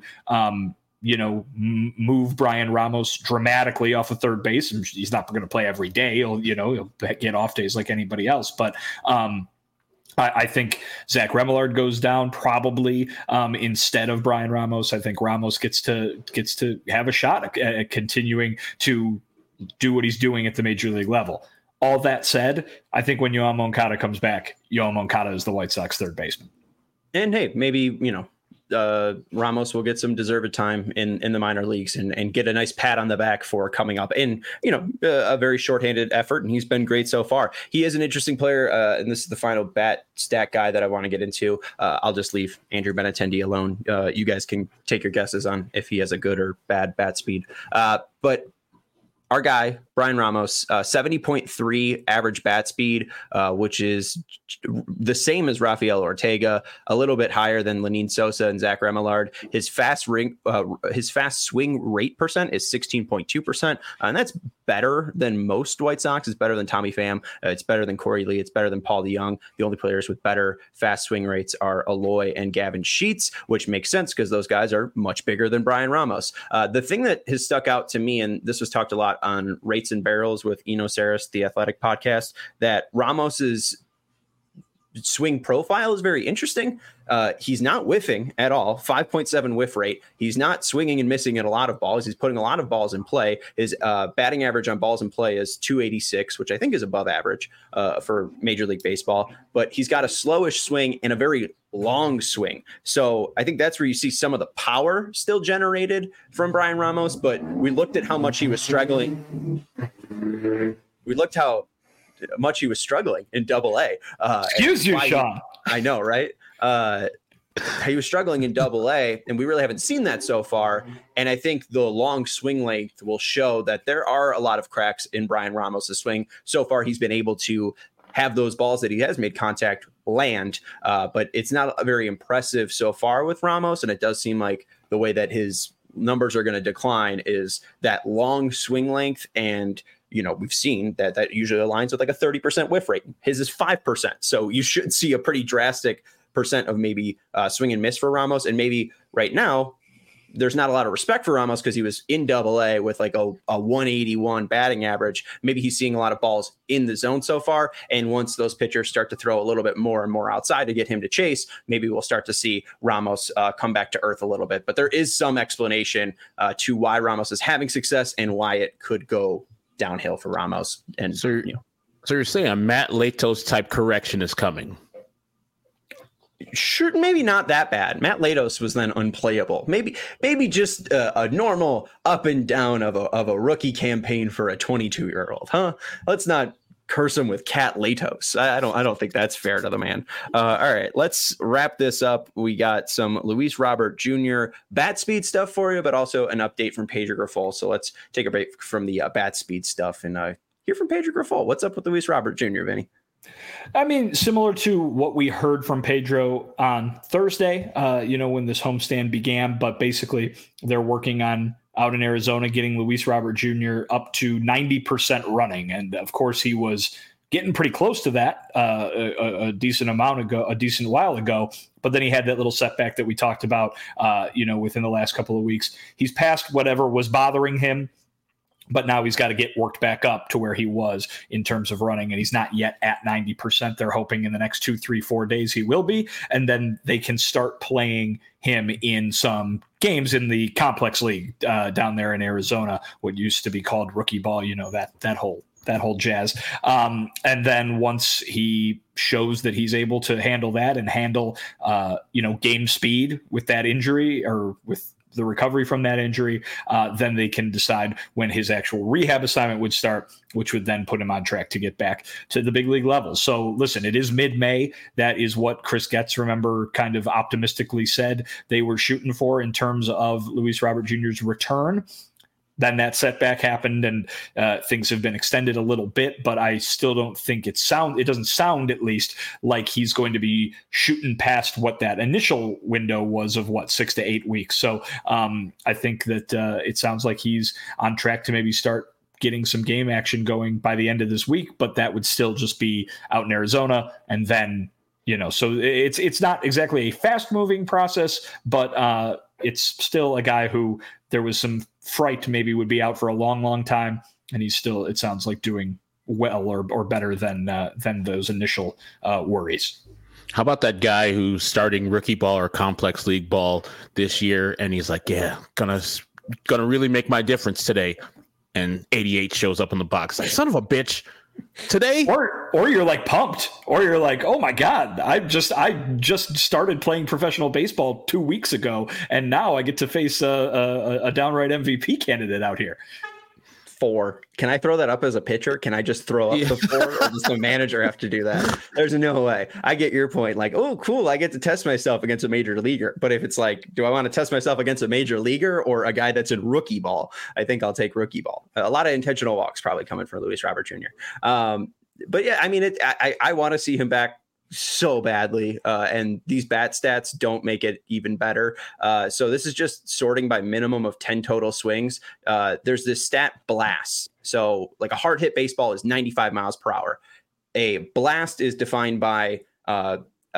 move Brian Ramos dramatically off of third base. He's not going to play every day. He'll get off days like anybody else, but I think Zach Remillard goes down probably instead of Brian Ramos. I think Ramos gets to have a shot at continuing to do what he's doing at the major league level. All that said, I think when Yoan Moncada comes back, Yoan Moncada is the White Sox third baseman. And hey, maybe, Ramos will get some deserved time in the minor leagues and get a nice pat on the back for coming up in, a very shorthanded effort. And he's been great so far. He is an interesting player. And this is the final bat stat guy that I want to get into. I'll just leave Andrew Benintendi alone. You guys can take your guesses on if he has a good or bad bat speed. But our guy, Brian Ramos, 70.3 average bat speed, which is the same as Rafael Ortega, a little bit higher than Lenyn Sosa and Zach Remillard. His fast swing rate percent is 16.2%, and that's better than most White Sox. It's better than Tommy Pham. It's better than Corey Lee. It's better than Paul DeJong. The only players with better fast swing rates are Eloy and Gavin Sheets, which makes sense because those guys are much bigger than Brian Ramos. The thing that has stuck out to me, and this was talked a lot on Rates and Barrels with Eno Saris, the Athletic podcast, that Ramos's swing profile is very interesting. He's not whiffing at all, 5.7 whiff rate. He's not swinging and missing at a lot of balls. He's putting a lot of balls in play. His batting average on balls in play is 286, which I think is above average for Major League Baseball. But he's got a slowish swing and a very long swing. So I think that's where you see some of the power still generated from Brian Ramos. But we looked at how much he was struggling. We looked how much he was struggling in Double-A. Excuse you, Sean. I know, right? He was struggling in Double-A, and we really haven't seen that so far. And I think the long swing length will show that there are a lot of cracks in Brian Ramos' swing. So far, he's been able to have those balls that he has made contact land, but it's not very impressive so far with Ramos. And it does seem like the way that his numbers are going to decline is that long swing length. And, we've seen that usually aligns with like a 30% whiff rate. His is 5%. So you should see a pretty drastic percent of maybe swing and miss for Ramos. And maybe right now there's not a lot of respect for Ramos because he was in Double-A with like a 181 batting average. Maybe he's seeing a lot of balls in the zone so far. And once those pitchers start to throw a little bit more and more outside to get him to chase, maybe we'll start to see Ramos come back to earth a little bit. But there is some explanation to why Ramos is having success and why it could go downhill for Ramos. And so you're saying a Matt Latos type correction is coming? Sure, maybe not that bad. Matt Latos was then unplayable. Maybe just a normal up and down of a rookie campaign for a 22-year-old, huh? Let's not curse him with Cat Latos. I don't think that's fair to the man. All right, let's wrap this up. We got some Luis Robert Jr. bat speed stuff for you, but also an update from Pedro Grifol. So let's take a break from the bat speed stuff and hear from Pedro Grifol. What's up with Luis Robert Jr., Vinny? I mean, similar to what we heard from Pedro on Thursday, when this homestand began, but basically they're working on out in Arizona, getting Luis Robert Jr. up to 90% running. And of course he was getting pretty close to that a decent while ago, but then he had that little setback that we talked about, within the last couple of weeks. He's past whatever was bothering him, but now he's got to get worked back up to where he was in terms of running, and he's not yet at 90%. They're hoping in the next 2, 3, 4 days he will be, and then they can start playing him in some games in the complex league down there in Arizona, what used to be called rookie ball, that whole jazz. And then once he shows that he's able to handle that and handle, game speed with that injury or with the recovery from that injury, then they can decide when his actual rehab assignment would start, which would then put him on track to get back to the big league level. So listen, it is mid-May. That is what Chris Getz, remember, kind of optimistically said they were shooting for in terms of Luis Robert Jr.'s return. Then that setback happened and things have been extended a little bit, but I still don't think it doesn't sound at least like he's going to be shooting past what that initial window was of 6 to 8 weeks. So I think that it sounds like he's on track to maybe start getting some game action going by the end of this week, but that would still just be out in Arizona. And then, so it's not exactly a fast moving process, but it's still a guy who there was some fright maybe would be out for a long, long time. And he's still, it sounds like, doing well or better than those initial worries. How about that guy who's starting rookie ball or complex league ball this year? And he's like, yeah, gonna really make my difference today. And 88 shows up in the box. Like, son of a bitch. Today, or you're like pumped, or you're like, oh my god, I just started playing professional baseball 2 weeks ago, and now I get to face a downright MVP candidate out here. 4. Can I throw that up as a pitcher? Can I just throw up the 4, or does the manager have to do that? There's no way. I get your point. Like, oh, cool, I get to test myself against a major leaguer. But if it's like, do I want to test myself against a major leaguer or a guy that's in rookie ball? I think I'll take rookie ball. A lot of intentional walks probably coming for Luis Robert Jr. But yeah, I mean, I want to see him back so badly, and these bat stats don't make it even better. So this is just sorting by minimum of 10 total swings. There's this stat blast. So like a hard hit baseball is 95 miles per hour. A blast is defined by a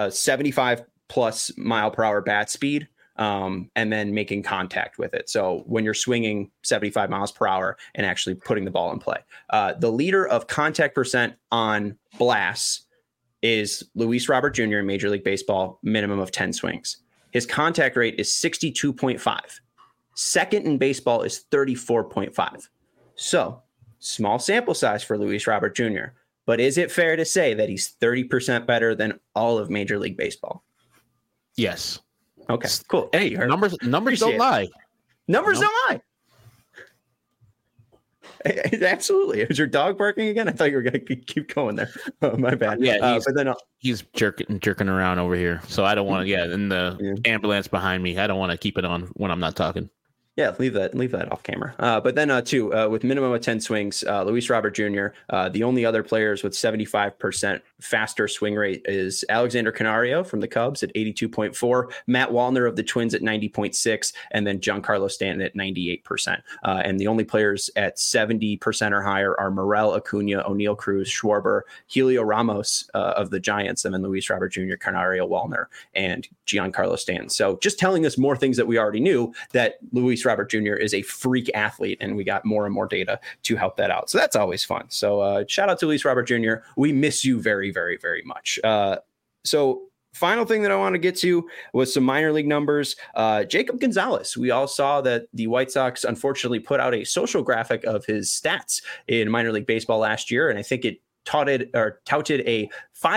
75 plus mile per hour bat speed, and then making contact with it. So when you're swinging 75 miles per hour and actually putting the ball in play, the leader of contact percent on blasts is Luis Robert Jr. in Major League Baseball, minimum of 10 swings. His contact rate is 62.5. Second in baseball is 34.5. So small sample size for Luis Robert Jr. But is it fair to say that he's 30% better than all of Major League Baseball? Yes. Okay, cool. Hey, numbers don't lie. Numbers don't lie. Absolutely. Is your dog barking again? I thought you were going to keep going there. Oh, my bad. Yeah, but then he's jerking around over here. So I don't want to. Yeah, and the ambulance behind me. I don't want to keep it on when I'm not talking. Yeah, leave that off camera. But then with minimum of 10 swings, Luis Robert Jr., the only other players with 75% faster swing rate is Alexander Canario from the Cubs at 82.4, Matt Wallner of the Twins at 90.6, and then Giancarlo Stanton at 98%. And the only players at 70% or higher are Morel, Acuna, O'Neill Cruz, Schwarber, Helio Ramos of the Giants, and then Luis Robert Jr., Canario, Wallner, and Giancarlo Stanton. So just telling us more things that we already knew, that Luis Robert Jr. is a freak athlete, and we got more and more data to help that out. So that's always fun. So shout out to Luis Robert Jr. We miss you very, very, very much. So final thing that I want to get to was some minor league numbers. Jacob Gonzalez. We all saw that the White Sox unfortunately put out a social graphic of his stats in minor league baseball last year, and I think it touted a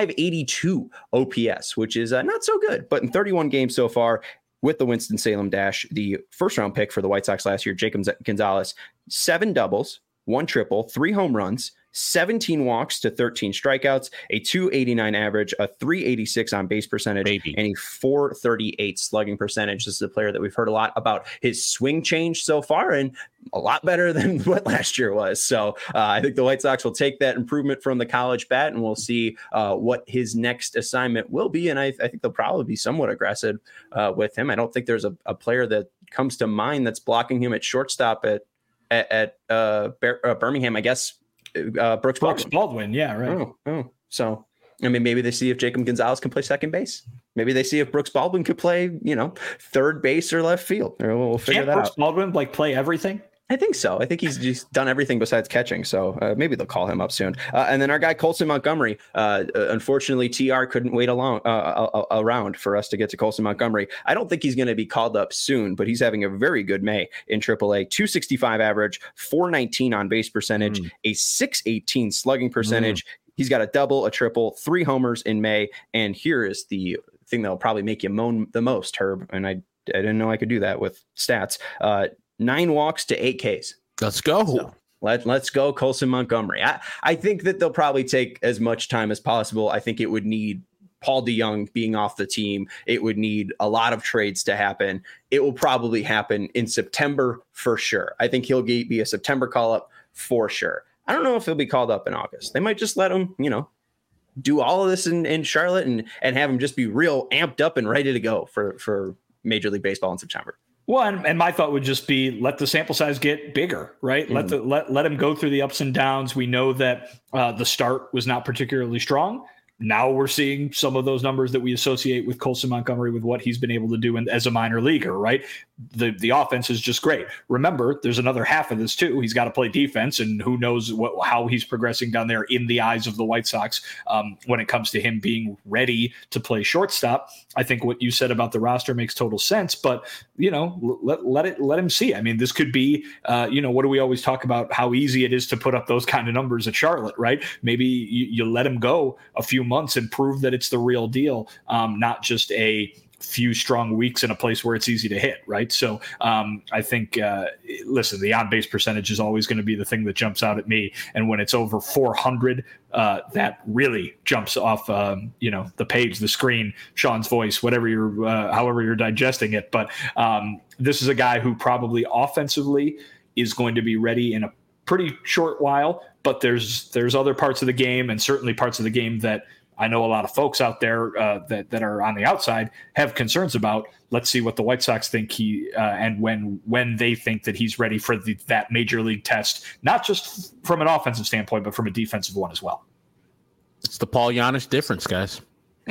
582 OPS, which is not so good, but in 31 games so far with the Winston-Salem Dash, the first round pick for the White Sox last year, Jacob Gonzalez, 7 doubles, 1 triple, 3 home runs, 17 walks to 13 strikeouts, a 289 average, a 386 on base percentage, and a 438 slugging percentage. This is a player that we've heard a lot about his swing change so far, and a lot better than what last year was. So I think the White Sox will take that improvement from the college bat, and we'll see what his next assignment will be. And I think they'll probably be somewhat aggressive with him. I don't think there's a player that comes to mind that's blocking him at shortstop at Birmingham, I guess. Brooks Baldwin. Yeah, right. Oh, so I mean, maybe they see if Jacob Gonzalez can play second base. Maybe they see if Brooks Baldwin could play, third base or left field. We'll figure that out. Brooks Baldwin play everything? I think so. I think he's just done everything besides catching. So maybe they'll call him up soon. And then our guy Colson Montgomery. Unfortunately, TR couldn't wait around for us to get to Colson Montgomery. I don't think he's going to be called up soon, but he's having a very good May in AAA. 265 average, 419 on base percentage, a 618 slugging percentage. He's got a double, a triple, 3 homers in May. And here is the thing that'll probably make you moan the most, Herb. And I didn't know I could do that with stats. 9 walks to 8 Ks. Let's go. So let's go, Colson Montgomery. I think that they'll probably take as much time as possible. I think it would need Paul DeJong being off the team. It would need a lot of trades to happen. It will probably happen in September for sure. I think he'll be a September call-up for sure. I don't know if he'll be called up in August. They might just let him, do all of this in Charlotte and have him just be real amped up and ready to go for Major League Baseball in September. Well, and my thought would just be let the sample size get bigger, right? Let him go through the ups and downs. We know that the start was not particularly strong. Now we're seeing some of those numbers that we associate with Colson Montgomery with what he's been able to do as a minor leaguer, right? The offense is just great. Remember, there's another half of this too. He's got to play defense, and who knows how he's progressing down there in the eyes of the White Sox when it comes to him being ready to play shortstop. I think what you said about the roster makes total sense, but let him see. I mean, this could be, what do we always talk about? How easy it is to put up those kind of numbers at Charlotte, right? Maybe you let him go a few months and prove that it's the real deal, not just a few strong weeks in a place where it's easy to hit, right? So I think, listen, the on-base percentage is always going to be the thing that jumps out at me. And when it's over 400, that really jumps off, the page, the screen, Sean's voice, whatever however you're digesting it. But this is a guy who probably offensively is going to be ready in a pretty short while. But there's other parts of the game, and certainly parts of the game that I know a lot of folks out there that are on the outside have concerns about. Let's see what the White Sox think and when they think that he's ready for that major league test, not just from an offensive standpoint, but from a defensive one as well. It's the Paul Giannis difference, guys.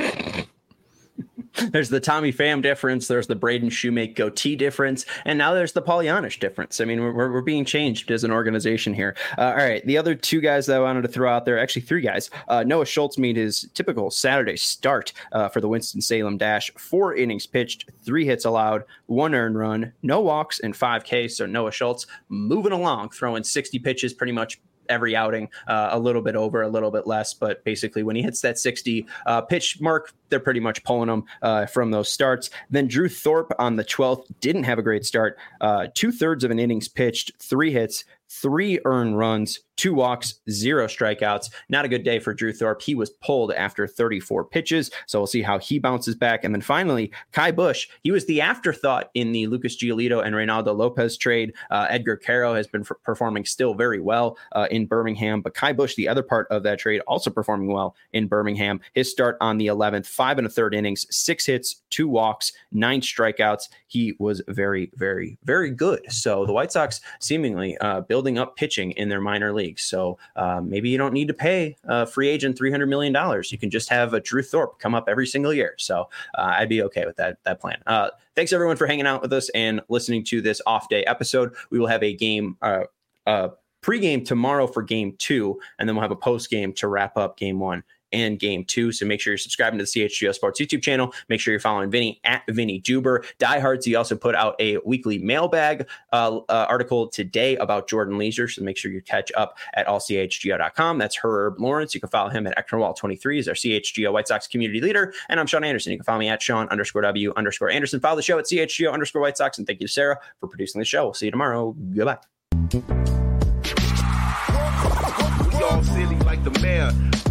There's the Tommy Pham difference. There's the Braden Shoemake goatee difference. And now there's the Paul Giannis difference. I mean, we're being changed as an organization here. All right. The other 2 guys that I wanted to throw out there, actually 3 guys. Noah Schultz made his typical Saturday start for the Winston-Salem Dash. 4 innings pitched, 3 hits allowed, 1 earned run, no walks, and 5 Ks. So Noah Schultz moving along, throwing 60 pitches pretty much every outing, a little bit over, a little bit less, but basically when he hits that 60 pitch mark, they're pretty much pulling him from those starts. Then Drew Thorpe on the 12th didn't have a great start. 2/3 of an innings pitched, 3 hits, 3 earned runs, 2 walks, 0 strikeouts. Not a good day for Drew Thorpe. He was pulled after 34 pitches, so we'll see how he bounces back. And then finally, Ky Bush. He was the afterthought in the Lucas Giolito and Reynaldo Lopez trade. Edgar Caro has been performing still very well in Birmingham, but Ky Bush, the other part of that trade, also performing well in Birmingham. His start on the 11th, 5 1/3 innings, 6 hits, 2 walks, 9 strikeouts. He was very, very, very good. So the White Sox seemingly building up pitching in their minor leagues. So maybe you don't need to pay a free agent $300 million. You can just have a Drew Thorpe come up every single year. So I'd be okay with that plan. Thanks everyone for hanging out with us and listening to this off day episode. We will have a game, pregame tomorrow for game 2, and then we'll have a post game to wrap up game 1 and game 2. So make sure you're subscribing to the CHGO Sports YouTube channel. Make sure you're following Vinny at Vinny Duber. Diehards, he also put out a weekly mailbag article today about Jordan Leisure. So make sure you catch up at allchgo.com. That's Herb Lawrence. You can follow him at Eknerwall23. He's our CHGO White Sox community leader. And I'm Sean Anderson. You can follow me at Sean_W_Anderson. Follow the show at CHGO_White Sox. And thank you to Sarah for producing the show. We'll see you tomorrow. Goodbye. We all silly like the mayor.